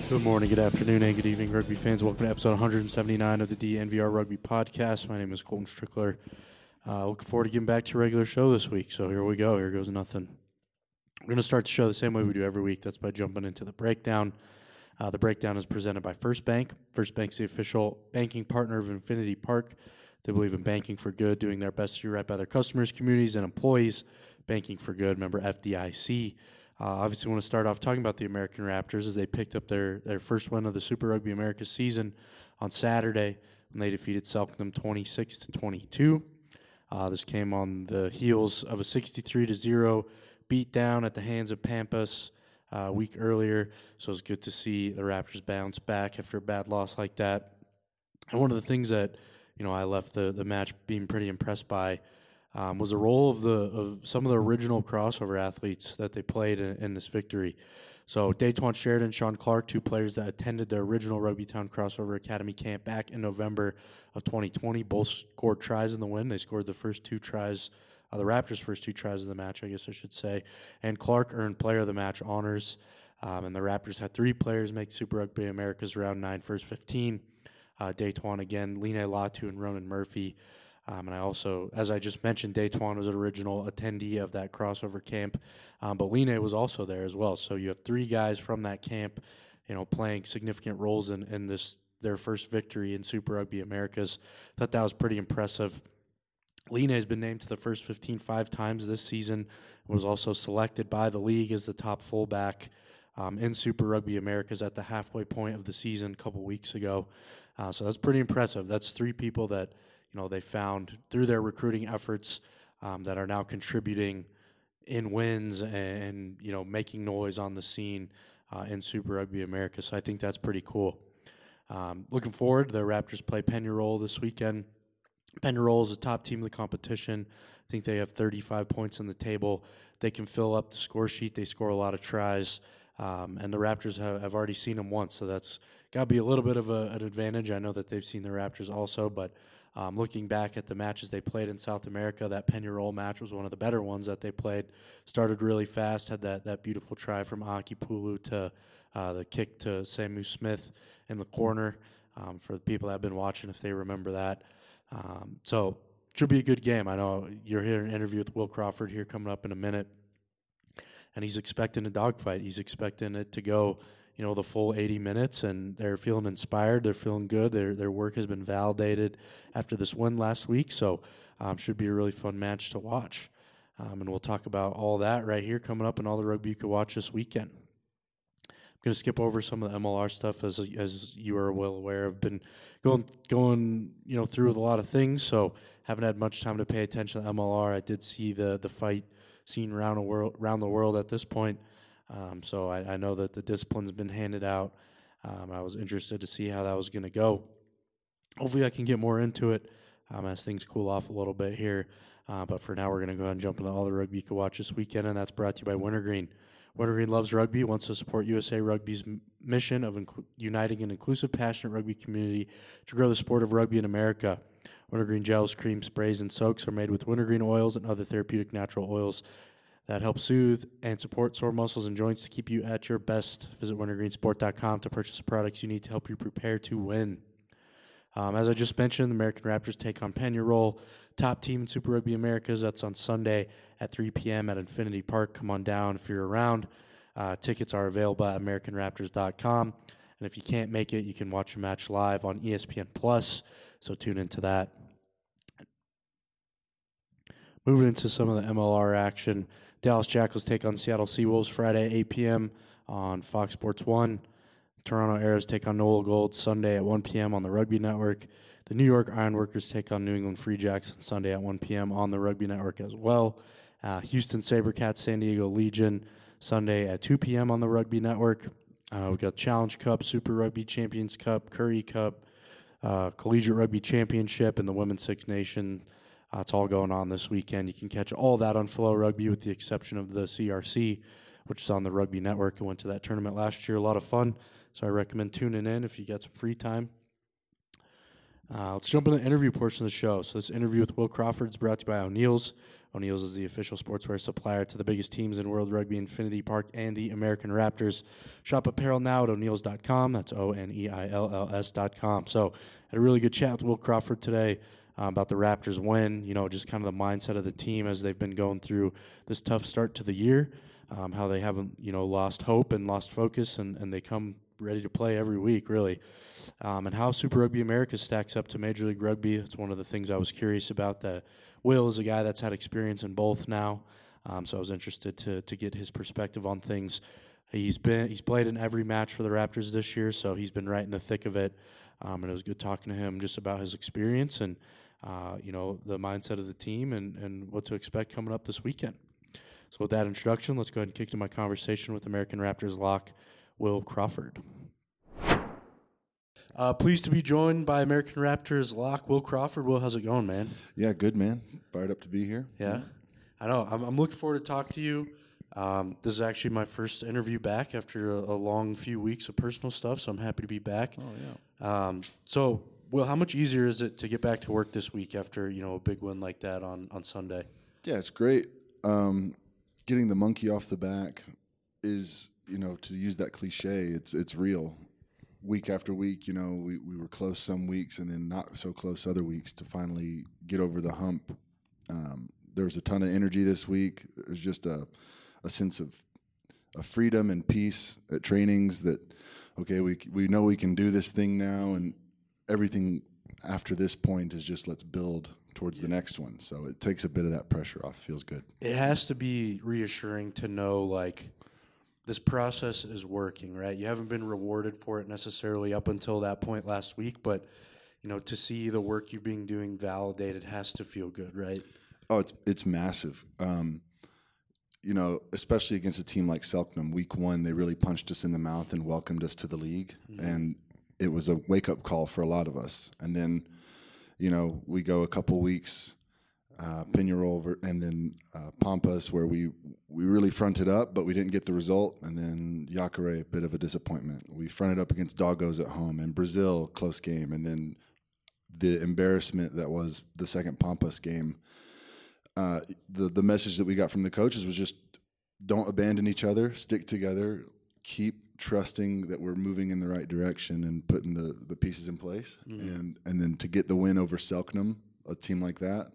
Good morning, good afternoon, and good evening, rugby fans. Welcome to episode 179 of the DNVR Rugby Podcast. My name is Colton Strickler. Looking forward to getting back to your regular show this week. So here we go. Here goes nothing. We're going to start the show the same way we do every week. That's by jumping into the breakdown. The breakdown is presented by First Bank. First Bank's the official banking partner of Infinity Park. They believe in banking for good, doing their best to do right by their customers, communities, and employees. Banking for good, member FDIC. Obviously, want to start off talking about the American Raptors as they picked up their first win of the Super Rugby America season on Saturday when they defeated Selknam 26-22. This came on the heels of a 63-0 beatdown at the hands of Pampas a week earlier. So it's good to see the Raptors bounce back after a bad loss like that. And one of the things that I left the match being pretty impressed by was the role of some of the original crossover athletes that they played in this victory. So Daytwan Sheridan, Sean Clark, two players that attended the original Rugbytown Crossover Academy camp back in November of 2020, both scored tries in the win. They scored the first two tries, the Raptors' first two tries of the match, I guess I should say. And Clark earned Player of the Match honors. And the Raptors had three players make Super Rugby America's Round 9 first 15. Daytwan again, Line Latu and Ronan Murphy. And I also, as I just mentioned, Daytwan was an original attendee of that crossover camp, but Line was also there as well. So you have three guys from that camp, playing significant roles in this their first victory in Super Rugby Americas. Thought that was pretty impressive. Line has been named to the first 15 5 times this season. Was also selected by the league as the top fullback in Super Rugby Americas at the halfway point of the season a couple weeks ago. So that's pretty impressive. That's three people that they found through their recruiting efforts that are now contributing in wins and making noise on the scene in Super Rugby America. So I think that's pretty cool. Looking forward, the Raptors play Pennyroll this weekend. Pennyroll is a top team of the competition. I think they have 35 points on the table. They can fill up the score sheet. They score a lot of tries. And the Raptors have already seen them once, so that's got to be a little bit of an advantage. I know that they've seen the Raptors also, but looking back at the matches they played in South America, that Pennyroll match was one of the better ones that they played. Started really fast, had that beautiful try from Aki Pulu to the kick to Samu Smith in the corner. For the people that have been watching, if they remember that. So should be a good game. I know you're hearing an interview with Will Crawford here coming up in a minute. And he's expecting a dogfight. He's expecting it to go, the full 80 minutes, and they're feeling inspired. They're feeling good. Their work has been validated after this win last week, so should be a really fun match to watch. And we'll talk about all that right here coming up and all the rugby you could watch this weekend. I'm going to skip over some of the MLR stuff as you are well aware. I've been going through with a lot of things, so haven't had much time to pay attention to MLR. I did see the fight seen around the world at this point. So I know that the discipline's been handed out. I was interested to see how that was going to go. Hopefully I can get more into it as things cool off a little bit here. But for now, we're going to go ahead and jump into all the rugby you can watch this weekend, and that's brought to you by Wintergreen. Wintergreen loves rugby, wants to support USA Rugby's mission of uniting an inclusive, passionate rugby community to grow the sport of rugby in America. Wintergreen gels, creams, sprays, and soaks are made with wintergreen oils and other therapeutic natural oils that help soothe and support sore muscles and joints to keep you at your best. Visit wintergreensport.com to purchase the products you need to help you prepare to win. As I just mentioned, the American Raptors take on Pennyroll, top team in Super Rugby Americas. That's on Sunday at 3 p.m. at Infinity Park. Come on down if you're around. Tickets are available at AmericanRaptors.com. And if you can't make it, you can watch the match live on ESPN+. So tune into that. Moving into some of the MLR action, Dallas Jackals take on Seattle Seawolves Friday at 8 p.m. on Fox Sports 1. Toronto Arrows take on Nola Gold Sunday at 1 p.m. on the Rugby Network. The New York Ironworkers take on New England Free Jacks on Sunday at 1 p.m. on the Rugby Network as well. Houston SaberCats San Diego Legion Sunday at 2 p.m. on the Rugby Network. We've got Challenge Cup, Super Rugby Champions Cup, Currie Cup, Collegiate Rugby Championship, and the Women's Six Nation. It's all going on this weekend. You can catch all that on Flow Rugby with the exception of the CRC, which is on the Rugby Network. I went to that tournament last year. A lot of fun. So I recommend tuning in if you get some free time. Let's jump into the interview portion of the show. So this interview with Will Crawford is brought to you by O'Neill's. O'Neill's is the official sportswear supplier to the biggest teams in World Rugby, Infinity Park, and the American Raptors. Shop apparel now at O'Neills.com. That's ONEILLS.com. So had a really good chat with Will Crawford today about the Raptors win, just kind of the mindset of the team as they've been going through this tough start to the year, how they haven't, lost hope and lost focus, and they come ready to play every week, really. And how Super Rugby America stacks up to Major League Rugby. It's one of the things I was curious about. Will is a guy that's had experience in both now, so I was interested to get his perspective on things. He's played in every match for the Raptors this year, so he's been right in the thick of it. And it was good talking to him just about his experience and the mindset of the team and what to expect coming up this weekend. So with that introduction, let's go ahead and kick to my conversation with American Raptors lock Will Crawford. Pleased to be joined by American Raptors lock Will Crawford. Will, how's it going, man? Yeah, good, man. Fired up to be here. Yeah, I know. I'm looking forward to talk to you. This is actually my first interview back after a long few weeks of personal stuff, so I'm happy to be back. Oh, yeah. So, Will, how much easier is it to get back to work this week after, a big win like that on Sunday? Yeah, it's great. Getting the monkey off the back is, to use that cliche, it's real. Week after week, we were close some weeks and then not so close other weeks to finally get over the hump. There was a ton of energy this week. There's just a sense of freedom and peace at trainings that, okay, we know we can do this thing now, and everything after this point is just let's build towards the next one. So it takes a bit of that pressure off. It feels good. It has to be reassuring to know, this process is working, right? You haven't been rewarded for it necessarily up until that point last week, but, to see the work you're doing validated has to feel good, right? Oh, it's massive. Especially against a team like Selknam, week one, they really punched us in the mouth and welcomed us to the league. Mm-hmm. And it was a wake-up call for a lot of us. And then, we go a couple weeks, Peñarol and then Pampas, where we really fronted up, but we didn't get the result. And then Jacare, a bit of a disappointment. We fronted up against Doggos at home. And Brazil, close game. And then the embarrassment that was the second Pampas game. The message that we got from the coaches was just don't abandon each other, stick together, keep trusting that we're moving in the right direction and putting the pieces in place. Mm-hmm. And then to get the win over Selknam, a team like that,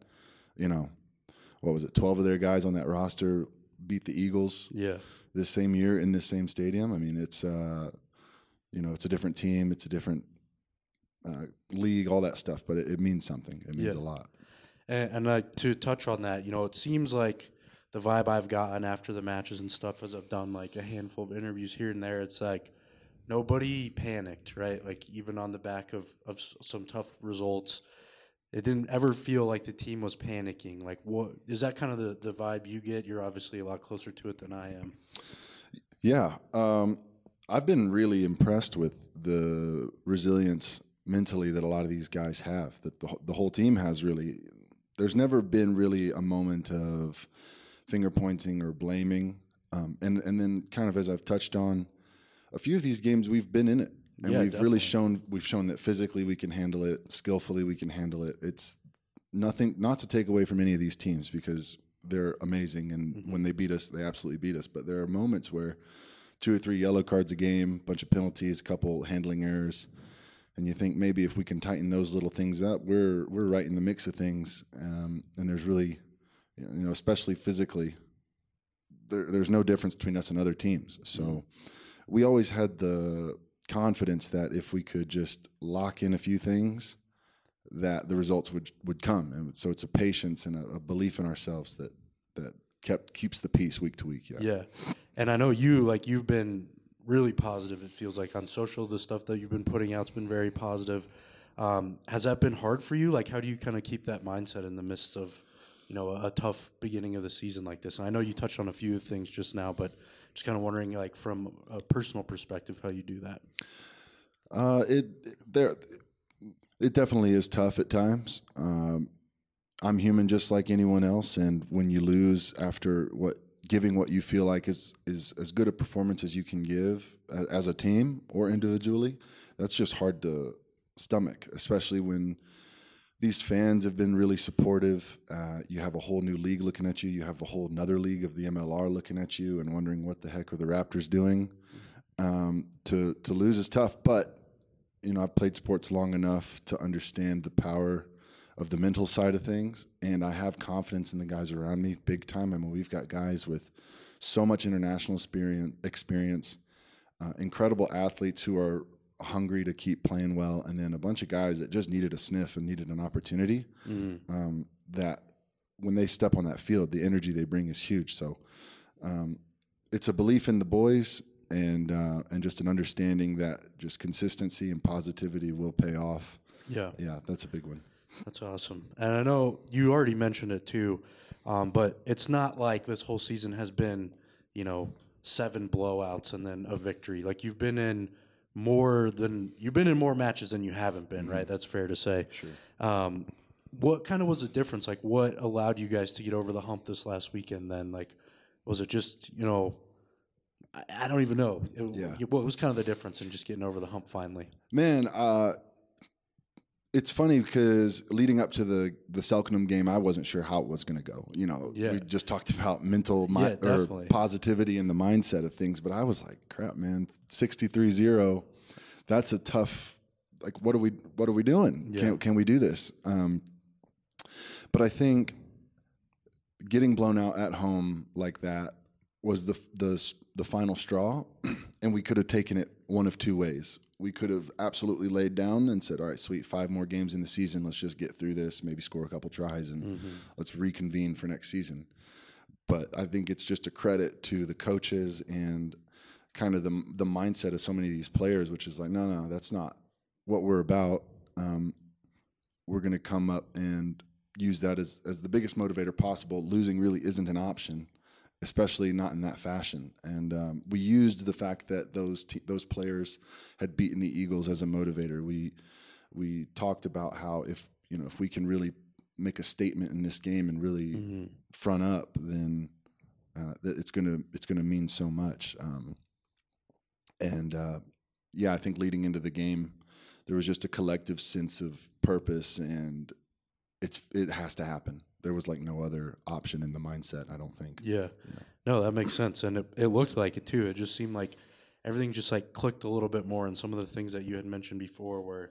what was it, 12 of their guys on that roster beat the Eagles this same year in this same stadium. I mean, it's it's a different team, it's a different league, all that stuff, but it means something. It means a lot. And to touch on that, it seems like the vibe I've gotten after the matches and stuff as I've done a handful of interviews here and there, it's nobody panicked, right? Even on the back of some tough results, it didn't ever feel like the team was panicking. What is that kind of the vibe you get? You're obviously a lot closer to it than I am. Yeah. I've been really impressed with the resilience mentally that a lot of these guys have, that the whole team has really. There's never been really a moment of finger pointing or blaming. And then kind of as I've touched on, a few of these games we've been in it. And we've definitely really shown that physically we can handle it, skillfully we can handle it. It's nothing, not to take away from any of these teams because they're amazing. And when they beat us, they absolutely beat us. But there are moments where 2 or 3 yellow cards a game, bunch of penalties, a couple handling errors. And you think maybe if we can tighten those little things up, we're right in the mix of things. And there's really, especially physically, there's no difference between us and other teams. So we always had the confidence that if we could just lock in a few things, that the results would come. And so it's a patience and a belief in ourselves that keeps the peace week to week. Yeah. And I know you've been really positive, it feels like, on social. The stuff that you've been putting out's been very positive. Has that been hard for you? How do you kind of keep that mindset in the midst of, a tough beginning of the season like this? And I know you touched on a few things just now, but just kind of wondering, from a personal perspective, how you do that. It definitely is tough at times. I'm human just like anyone else, and when you lose after giving what you feel like is as good a performance as you can give as a team or individually, that's just hard to stomach, especially when these fans have been really supportive. You have a whole new league looking at you. You have a whole another league of the MLR looking at you and wondering what the heck are the Raptors doing. To lose is tough, but I've played sports long enough to understand the power of the mental side of things, and I have confidence in the guys around me big time. I mean, we've got guys with so much international experience, incredible athletes who are hungry to keep playing well, and then a bunch of guys that just needed a sniff and needed an opportunity. That when they step on that field, the energy they bring is huge. So it's a belief in the boys, and just an understanding that just consistency and positivity will pay off. Yeah, that's a big one. That's awesome. And I know you already mentioned it too, but it's not like this whole season has been, 7 blowouts and then a victory. Like you've been in more matches than you haven't been, right? That's fair to say. Sure. What kind of was the difference? Like what allowed you guys to get over the hump this last weekend then? Like, was it just, I don't even know. What was kind of the difference in just getting over the hump finally? Man, it's funny because leading up to the Selknam game, I wasn't sure how it was going to go. We just talked about mental or positivity and the mindset of things, but I was like, crap, man, 63-0. That's a tough. Like, what are we doing? Yeah. Can we do this? But I think getting blown out at home like that was the final straw, and we could have taken it one of two ways. We could have absolutely laid down and said, all right, sweet, 5 more games in the season. Let's just get through this, maybe score a couple tries, and let's reconvene for next season. But I think it's just a credit to the coaches and kind of the mindset of so many of these players, which is like, no, that's not what we're about. We're going to come up and use that as the biggest motivator possible. Losing really isn't an option, especially not in that fashion. And we used the fact that those players had beaten the Eagles as a motivator. We talked about how if we can really make a statement in this game and really front up, then it's gonna mean so much. I think leading into the game, there was just a collective sense of purpose, and it has to happen. There was like no other option in the mindset, I don't think. Yeah. No, that makes sense. And it looked like it too. It just seemed like everything just like clicked a little bit more. And some of the things that you had mentioned before were,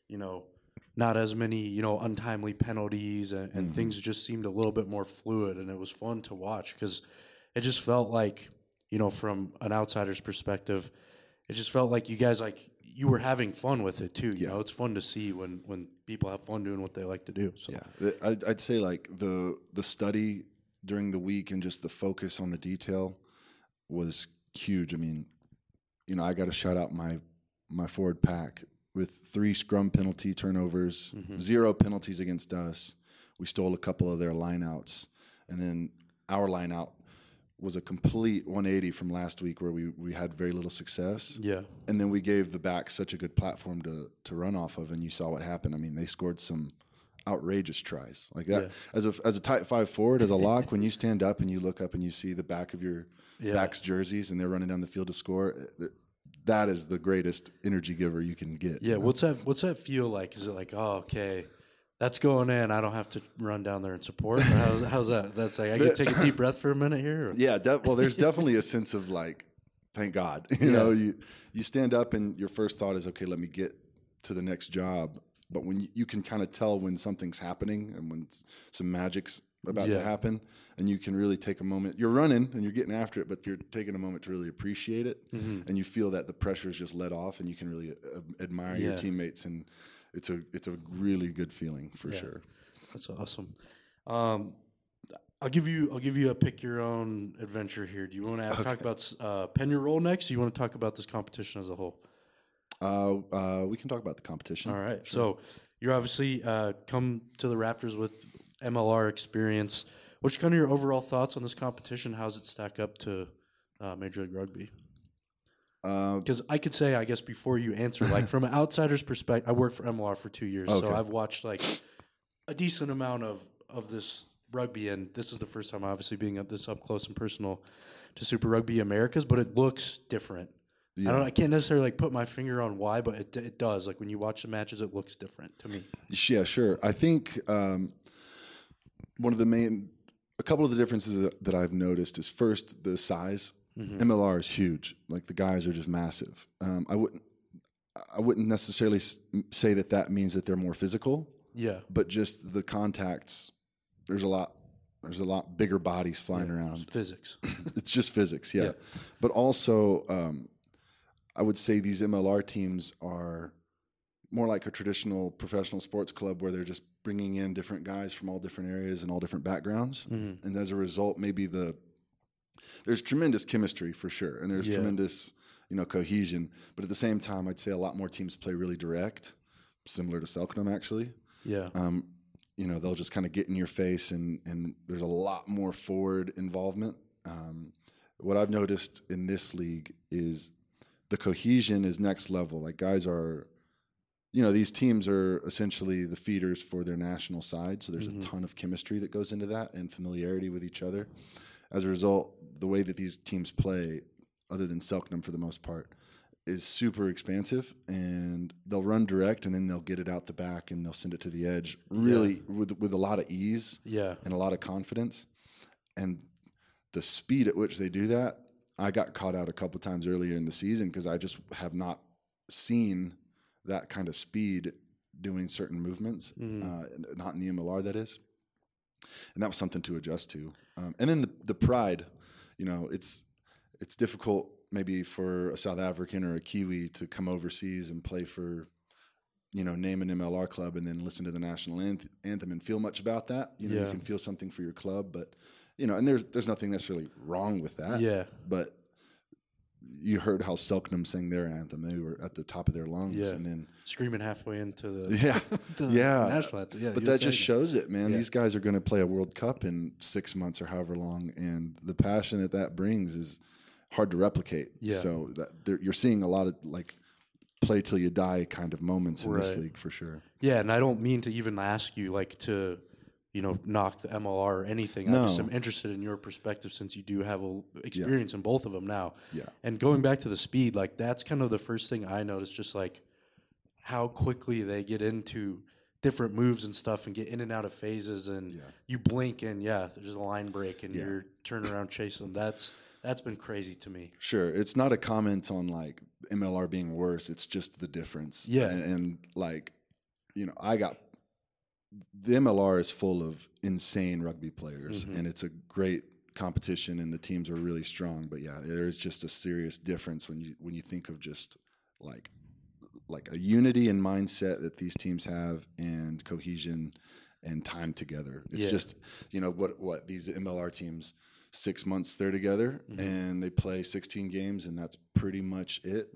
not as many, untimely penalties and things just seemed a little bit more fluid. And it was fun to watch because it just felt like, from an outsider's perspective, it just felt like you guys you were having fun with it too. You know, it's fun to see when people have fun doing what they like to do. So. Yeah, I'd say like the study during the week and just the focus on the detail was huge. I mean, I got to shout out my forward pack with 3 scrum penalty turnovers, 0 penalties against us. We stole a couple of their lineouts, and then our lineout was a complete 180 from last week where we had very little success. Yeah. And then we gave the back such a good platform to run off of, and you saw what happened. I mean, they scored some outrageous tries like that. Yeah. As a type 5 forward, as a lock, when you stand up and you look up and you see the back of your back's jerseys and they're running down the field to score, that is the greatest energy giver you can get. Yeah. What's that feel like? Is it like, oh, okay, that's going in, I don't have to run down there and support? Or how's that? That's like, I can take a deep breath for a minute here? Or? Yeah, well, there's definitely a sense of like, thank God. You stand up and your first thought is, okay, let me get to the next job. But when you can kind of tell when something's happening and when some magic's about to happen, and you can really take a moment. You're running and you're getting after it, but you're taking a moment to really appreciate it, and you feel that the pressure is just let off, and you can really admire your teammates, and it's a really good feeling for sure. That's awesome. I'll give you a pick your own adventure here. Do you want to talk about pen your roll next? Or you want to talk about this competition as a whole? We can talk about the competition. All right. Sure. So you're obviously come to the Raptors with MLR experience. What's kind of your overall thoughts on this competition? How does it stack up to Major League Rugby? Because I could say, I guess, before you answer, like from an outsider's perspective, I worked for MLR for 2 years, so I've watched like a decent amount of this rugby, and this is the first time, obviously, being this up close and personal to Super Rugby Americas, but it looks different. Yeah. I can't necessarily like put my finger on why, but it does. Like when you watch the matches, it looks different to me. Yeah, sure. I think a couple of the differences that I've noticed is first the size. MLR is huge. Like the guys are just massive. I wouldn't necessarily say that means that they're more physical. Yeah. But just the contacts, there's a lot bigger bodies flying around. It's physics. It's just physics, yeah. But also, I would say these MLR teams are more like a traditional professional sports club where they're just bringing in different guys from all different areas and all different backgrounds. And as a result, maybe there's tremendous chemistry for sure, and there's tremendous cohesion. But at the same time, I'd say a lot more teams play really direct, similar to Selknam actually. Yeah. They'll just kind of get in your face, and there's a lot more forward involvement. What I've noticed in this league is the cohesion is next level. Like guys are, these teams are essentially the feeders for their national side. So there's a ton of chemistry that goes into that and familiarity with each other. As a result, the way that these teams play, other than Selknam for the most part, is super expansive, and they'll run direct and then they'll get it out the back and they'll send it to the edge really with a lot of ease and a lot of confidence. And the speed at which they do that, I got caught out a couple times earlier in the season because I just have not seen that kind of speed doing certain movements, not in the MLR, that is. And that was something to adjust to. And then the pride, it's difficult maybe for a South African or a Kiwi to come overseas and play for, name an MLR club and then listen to the national anthem and feel much about that. You can feel something for your club, but, and there's nothing necessarily wrong with that. Yeah. But you heard how Selknam sang their anthem. They were at the top of their lungs and then screaming halfway into the national anthem. Yeah, but that just shows it, man. These guys are going to play a World Cup in 6 months or however long, and the passion that brings is hard to replicate. Yeah. So you're seeing a lot of like play till you die kind of moments in this league for sure. Yeah, and I don't mean to even ask you like to, knock the MLR or anything. No. I just am interested in your perspective since you do have experience in both of them now. Yeah. And going back to the speed, like that's kind of the first thing I noticed, just like how quickly they get into different moves and stuff and get in and out of phases, and you blink and there's a line break and you're turning around chasing them. That's been crazy to me. Sure. It's not a comment on like MLR being worse. It's just the difference. Yeah. And like, the MLR is full of insane rugby players, and it's a great competition, and the teams are really strong. But there's just a serious difference when you think of just like a unity and mindset that these teams have, and cohesion and time together. It's just what these MLR teams, 6 months they're together and they play 16 games, and that's pretty much it.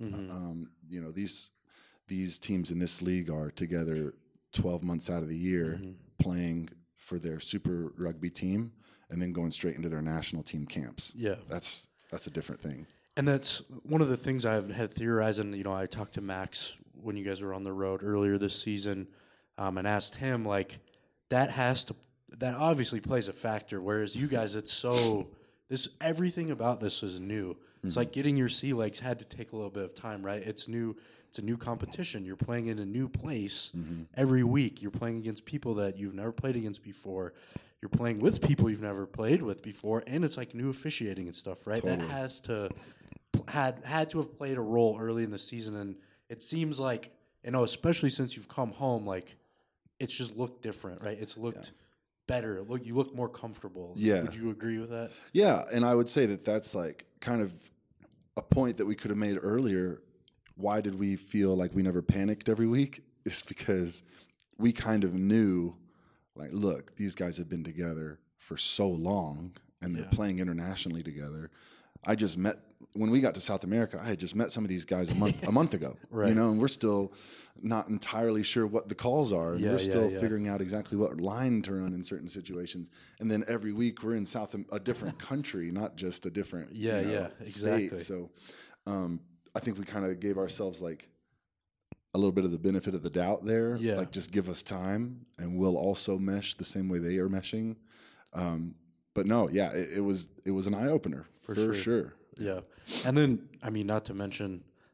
These teams in this league are together 12 months out of the year playing for their super rugby team and then going straight into their national team camps. Yeah. That's a different thing. And that's one of the things I've had theorized, and I talked to Max when you guys were on the road earlier this season, and asked him like that obviously plays a factor, whereas you guys everything about this is new. It's like getting your sea legs had to take a little bit of time, right? It's new. It's a new competition. You're playing in a new place every week. You're playing against people that you've never played against before. You're playing with people you've never played with before, and it's like new officiating and stuff, right? Totally. That has to had to have played a role early in the season, and it seems like especially since you've come home, like it's just looked different, right? It's looked better. You look more comfortable. Yeah. Would you agree with that? Yeah, and I would say that's like kind of a point that we could have made earlier. Why did we feel like we never panicked every week? It's because we kind of knew, like, look, these guys have been together for so long and they're playing internationally together. When we got to South America, I had just met some of these guys a month ago, right. And we're still not entirely sure what the calls are. And we're still figuring out exactly what line to run in certain situations. And then every week we're in a different country, not just a different exactly. state. So I think we kind of gave ourselves like a little bit of the benefit of the doubt there. Yeah. Like just give us time and we'll also mesh the same way they are meshing. But no, it was an eye opener for sure. Yeah. And then, not to mention,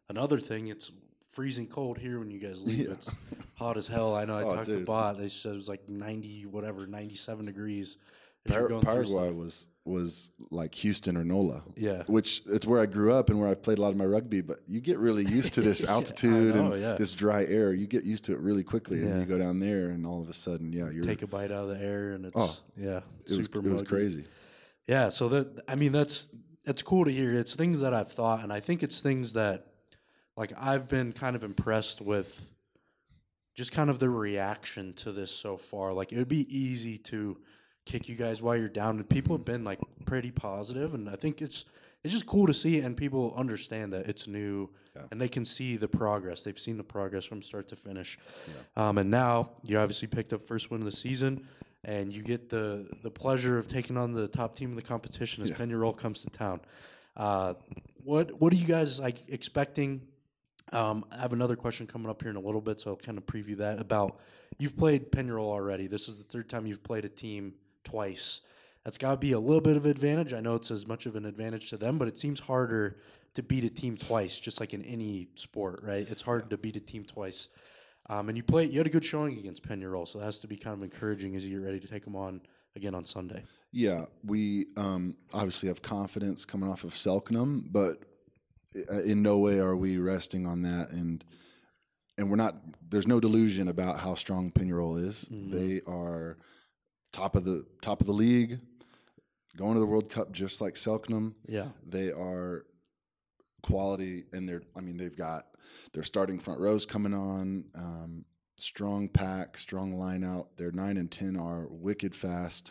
another thing, it's freezing cold here when you guys leave. It's hot as hell. I know. I talked to Bot. They said it was like 97 degrees. Paraguay was like Houston or NOLA. Yeah. Which it's where I grew up and where I've played a lot of my rugby, but you get really used to this altitude this dry air. You get used to it really quickly, and then you go down there and all of a sudden, you take a bite out of the air and it's it was crazy. Yeah, so that's cool to hear. It's things that I've thought, and I think it's things that like I've been kind of impressed with just kind of the reaction to this so far. Like it would be easy to kick you guys while you're down, and people have been like pretty positive, and I think it's just cool to see, and people understand that it's new and they can see the progress. They've seen the progress from start to finish. And now you obviously picked up first win of the season, and you get the pleasure of taking on the top team in the competition as Peñarol comes to town. What are you guys like expecting? I have another question coming up here in a little bit, so I'll kind of preview that. About you've played Peñarol already. This is the third time you've played a team twice. That's got to be a little bit of advantage. I know it's as much of an advantage to them, but it seems harder to beat a team twice, just like in any sport, right? It's hard to beat a team twice. And you had a good showing against Peñarol, so it has to be kind of encouraging as you get ready to take them on again on Sunday. Yeah, we obviously have confidence coming off of Selknam, but in no way are we resting on that, and we're not. There's no delusion about how strong Peñarol is. Mm-hmm. They are top of the league, going to the World Cup just like Selknam. Yeah, they are quality, and they've got their starting front rows coming on. Strong pack, strong line out. Their 9 and 10 are wicked fast.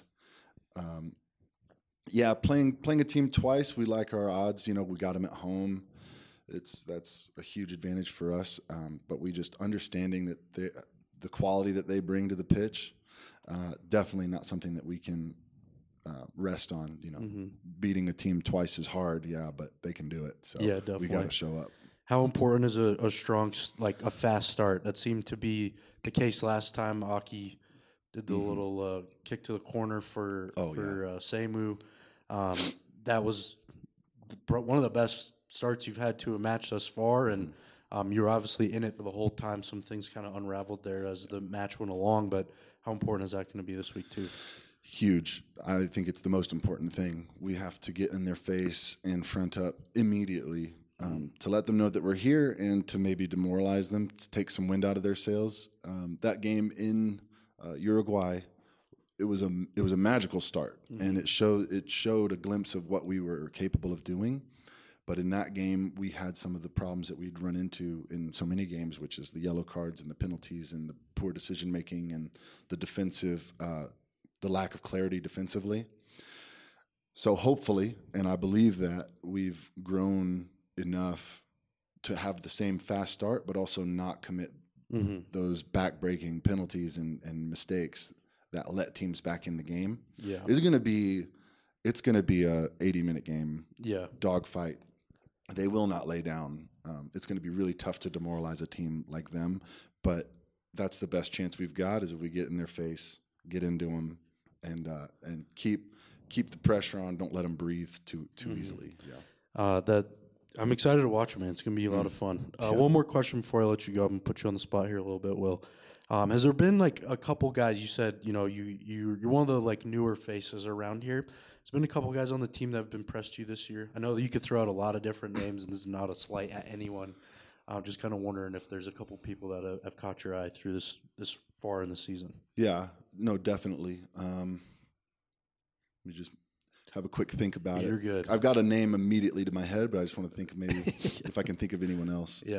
Playing a team twice, we like our odds. We got them at home. That's a huge advantage for us. But we just understanding that the quality that they bring to the pitch, definitely not something that we can rest on. Beating a team twice is hard, but they can do it. So definitely. We got to show up. How important is a strong, like a fast start? That seemed to be the case last time. Aki did the little kick to the corner for Seimu. That was one of the best starts you've had to a match thus far, and you were obviously in it for the whole time. Some things kind of unraveled there as the match went along, but how important is that going to be this week too? Huge. I think it's the most important thing. We have to get in their face and front up immediately to let them know that we're here and to maybe demoralize them, to take some wind out of their sails. That game in Uruguay, it was a magical start, and it showed a glimpse of what we were capable of doing. But in that game, we had some of the problems that we'd run into in so many games, which is the yellow cards and the penalties and the poor decision making and the defensive, the lack of clarity defensively. So hopefully, and I believe that we've grown enough to have the same fast start, but also not commit those back-breaking penalties and mistakes that let teams back in the game. Yeah, it's going to be a 80-minute game. Yeah, dogfight. They will not lay down. It's going to be really tough to demoralize a team like them, but that's the best chance we've got is if we get in their face, get into them, and keep the pressure on. Don't let them breathe too easily. Yeah. I'm excited to watch it, man. It's going to be a lot of fun. One more question before I let you go. I'm going to put you on the spot here a little bit, Will. Has there been like a couple guys, you said, you're one of the like newer faces around here. There's been a couple guys on the team that have impressed you this year. I know that you could throw out a lot of different names, and this is not a slight at anyone. I'm just kind of wondering if there's a couple people that have caught your eye through this far in the season. Yeah, no, definitely. Let me just have a quick think about it. You're good. I've got a name immediately to my head, but I just want to think maybe if I can think of anyone else. Yeah.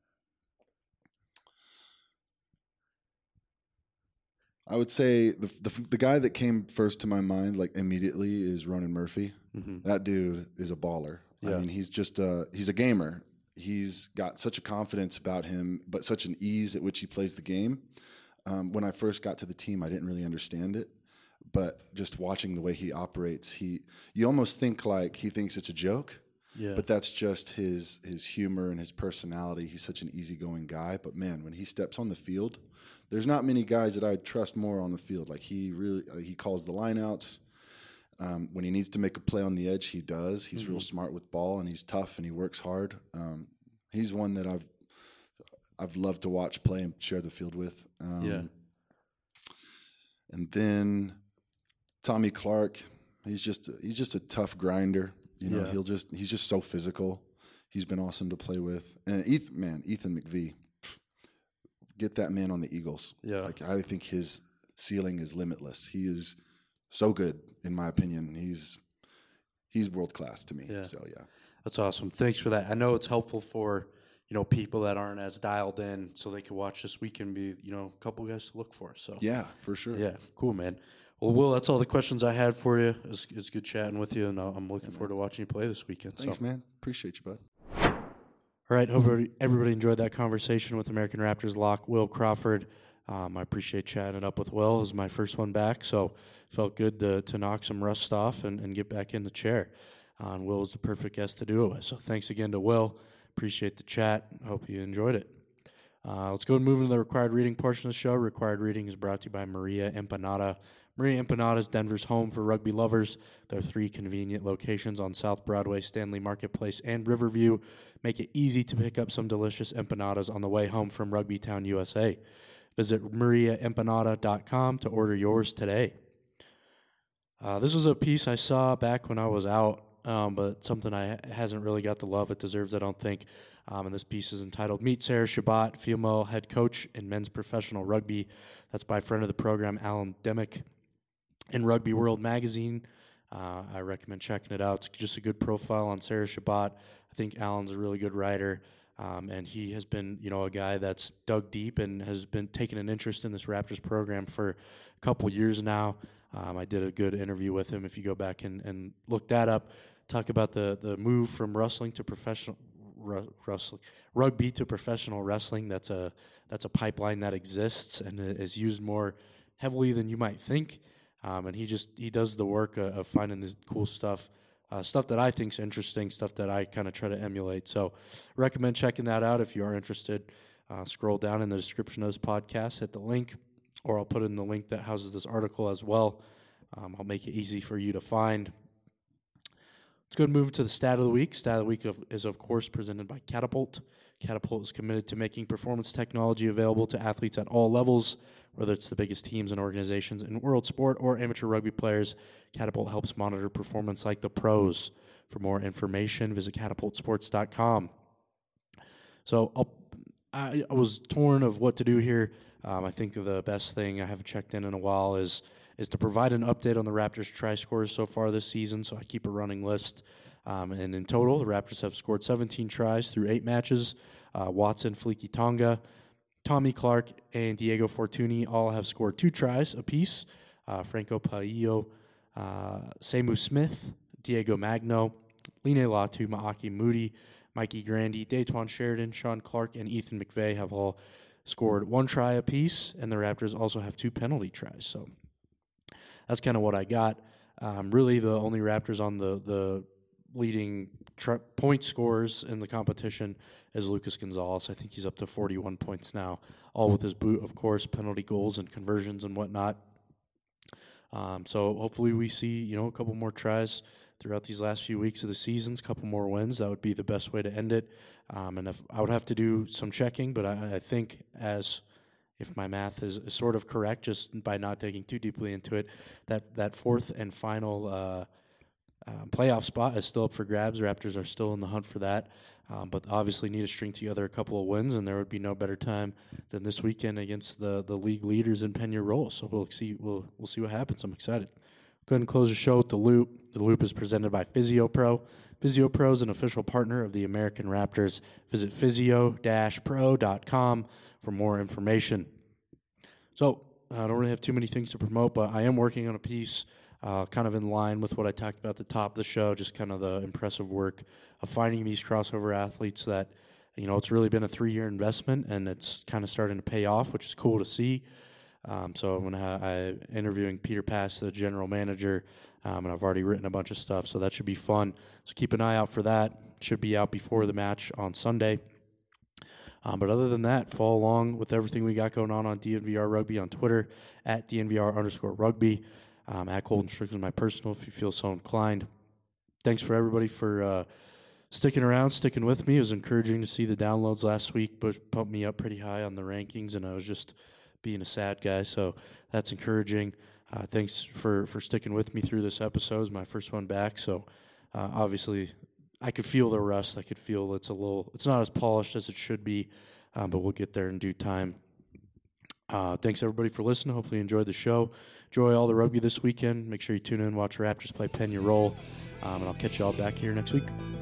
I would say the guy that came first to my mind, like immediately, is Ronan Murphy. Mm-hmm. That dude is a baller. Yeah. I mean, he's just he's a gamer. He's got such a confidence about him, but such an ease at which he plays the game. When I first got to the team, I didn't really understand it, but just watching the way he operates, you almost think like he thinks it's a joke. Yeah. But that's just his humor and his personality. He's such an easygoing guy. But man, when he steps on the field, there's not many guys that I trust more on the field. Like he calls the lineouts. When he needs to make a play on the edge, he does. He's real smart with ball, and he's tough, and he works hard. He's one that I've loved to watch play and share the field with. And then Tommy Clark, he's just a tough grinder. He's just so physical. He's been awesome to play with. And Ethan McVie, get that man on the Eagles. Yeah. Like, I think his ceiling is limitless. He is so good, in my opinion. He's world class to me. Yeah. So yeah. That's awesome. Thanks for that. I know it's helpful for, people that aren't as dialed in, so they can watch this week and be, a couple guys to look for. So yeah, for sure. Yeah, cool, man. Well, Will, that's all the questions I had for you. It's good chatting with you, and I'm looking forward to watching you play this weekend. Thanks, man. Appreciate you, bud. All right, hope everybody enjoyed that conversation with American Raptors lock Will Crawford. I appreciate chatting it up with Will. It was my first one back, so felt good to knock some rust off and get back in the chair. And Will was the perfect guest to do it with. So thanks again to Will. Appreciate the chat. Hope you enjoyed it. Let's go and move into the required reading portion of the show. Required reading is brought to you by Maria Empanada. Maria Empanada is Denver's home for rugby lovers. There are 3 convenient locations on South Broadway, Stanley Marketplace, and Riverview. Make it easy to pick up some delicious empanadas on the way home from Rugby Town, USA. Visit mariaempanada.com to order yours today. This was a piece I saw back when I was out, but something hasn't really got the love it deserves, I don't think. And this piece is entitled Meet Sarah Shabbat, Female Head Coach in Men's Professional Rugby. That's by friend of the program, Alan Demick, in Rugby World Magazine. I recommend checking it out. It's just a good profile on Sarah Shabbat. I think Alan's a really good writer, and he has been, a guy that's dug deep and has been taking an interest in this Raptors program for a couple years now. I did a good interview with him. If you go back and look that up, talk about the move from rugby to professional wrestling. That's a pipeline that exists and is used more heavily than you might think. And he does the work of finding this cool stuff, stuff that I think is interesting, stuff that I kind of try to emulate. So recommend checking that out if you are interested. Scroll down in the description of this podcast, hit the link, or I'll put in the link that houses this article as well. I'll make it easy for you to find. Let's go and move to the Stat of the Week. Stat of the Week is, of course, presented by Catapult. Catapult is committed to making performance technology available to athletes at all levels, whether it's the biggest teams and organizations in world sport or amateur rugby players. Catapult helps monitor performance like the pros. For more information, visit catapultsports.com. So I was torn of what to do here. I think the best thing, I haven't checked in a while, is to provide an update on the Raptors' try scores so far this season. So I keep a running list. And in total, the Raptors have scored 17 tries through 8 matches. Watson, Fleeky Tonga, Tommy Clark, and Diego Fortuny all have scored 2 tries apiece. Franco Paillo, Semu Smith, Diego Magno, Line Latu, Maaki Moody, Mikey Grandy, Daytwan Sheridan, Sean Clark, and Ethan McVeigh have all scored 1 try apiece, and the Raptors also have 2 penalty tries. So that's kind of what I got. Really, the only Raptors on the leading point scorers in the competition is Lucas Gonzalez. I think he's up to 41 points now, all with his boot, of course, penalty goals and conversions and whatnot. So hopefully we see, a couple more tries throughout these last few weeks of the seasons, a couple more wins. That would be the best way to end it. And if I would have to do some checking, but I think if my math is sort of correct, just by not digging too deeply into it, that fourth and final playoff spot is still up for grabs. Raptors are still in the hunt for that, but obviously need to string together a couple of wins, and there would be no better time than this weekend against the league leaders in Peñarol. So we'll see what happens. I'm excited. Go ahead and close the show with The Loop. The Loop is presented by PhysioPro. PhysioPro is an official partner of the American Raptors. Visit physio-pro.com for more information. So I don't really have too many things to promote, but I am working on a piece kind of in line with what I talked about at the top of the show, just kind of the impressive work of finding these crossover athletes that, it's really been a 3-year investment, and it's kind of starting to pay off, which is cool to see. So I'm interviewing Peter Pass, the general manager, and I've already written a bunch of stuff, so that should be fun. So keep an eye out for that. Should be out before the match on Sunday. But other than that, follow along with everything we got going on DNVR Rugby on Twitter, at DNVR_rugby. At Colton Strickland is my personal, if you feel so inclined. Thanks for everybody for sticking around, sticking with me. It was encouraging to see the downloads last week, but pumped me up pretty high on the rankings, and I was just being a sad guy, so that's encouraging. Thanks for sticking with me through this episode. It was my first one back, so obviously I could feel the rust. I could feel it's not as polished as it should be, but we'll get there in due time. Thanks everybody for listening. Hopefully you enjoyed the show. Enjoy all the rugby this weekend. Make sure you tune in, watch Raptors play Peñarol, and I'll catch you all back here next week.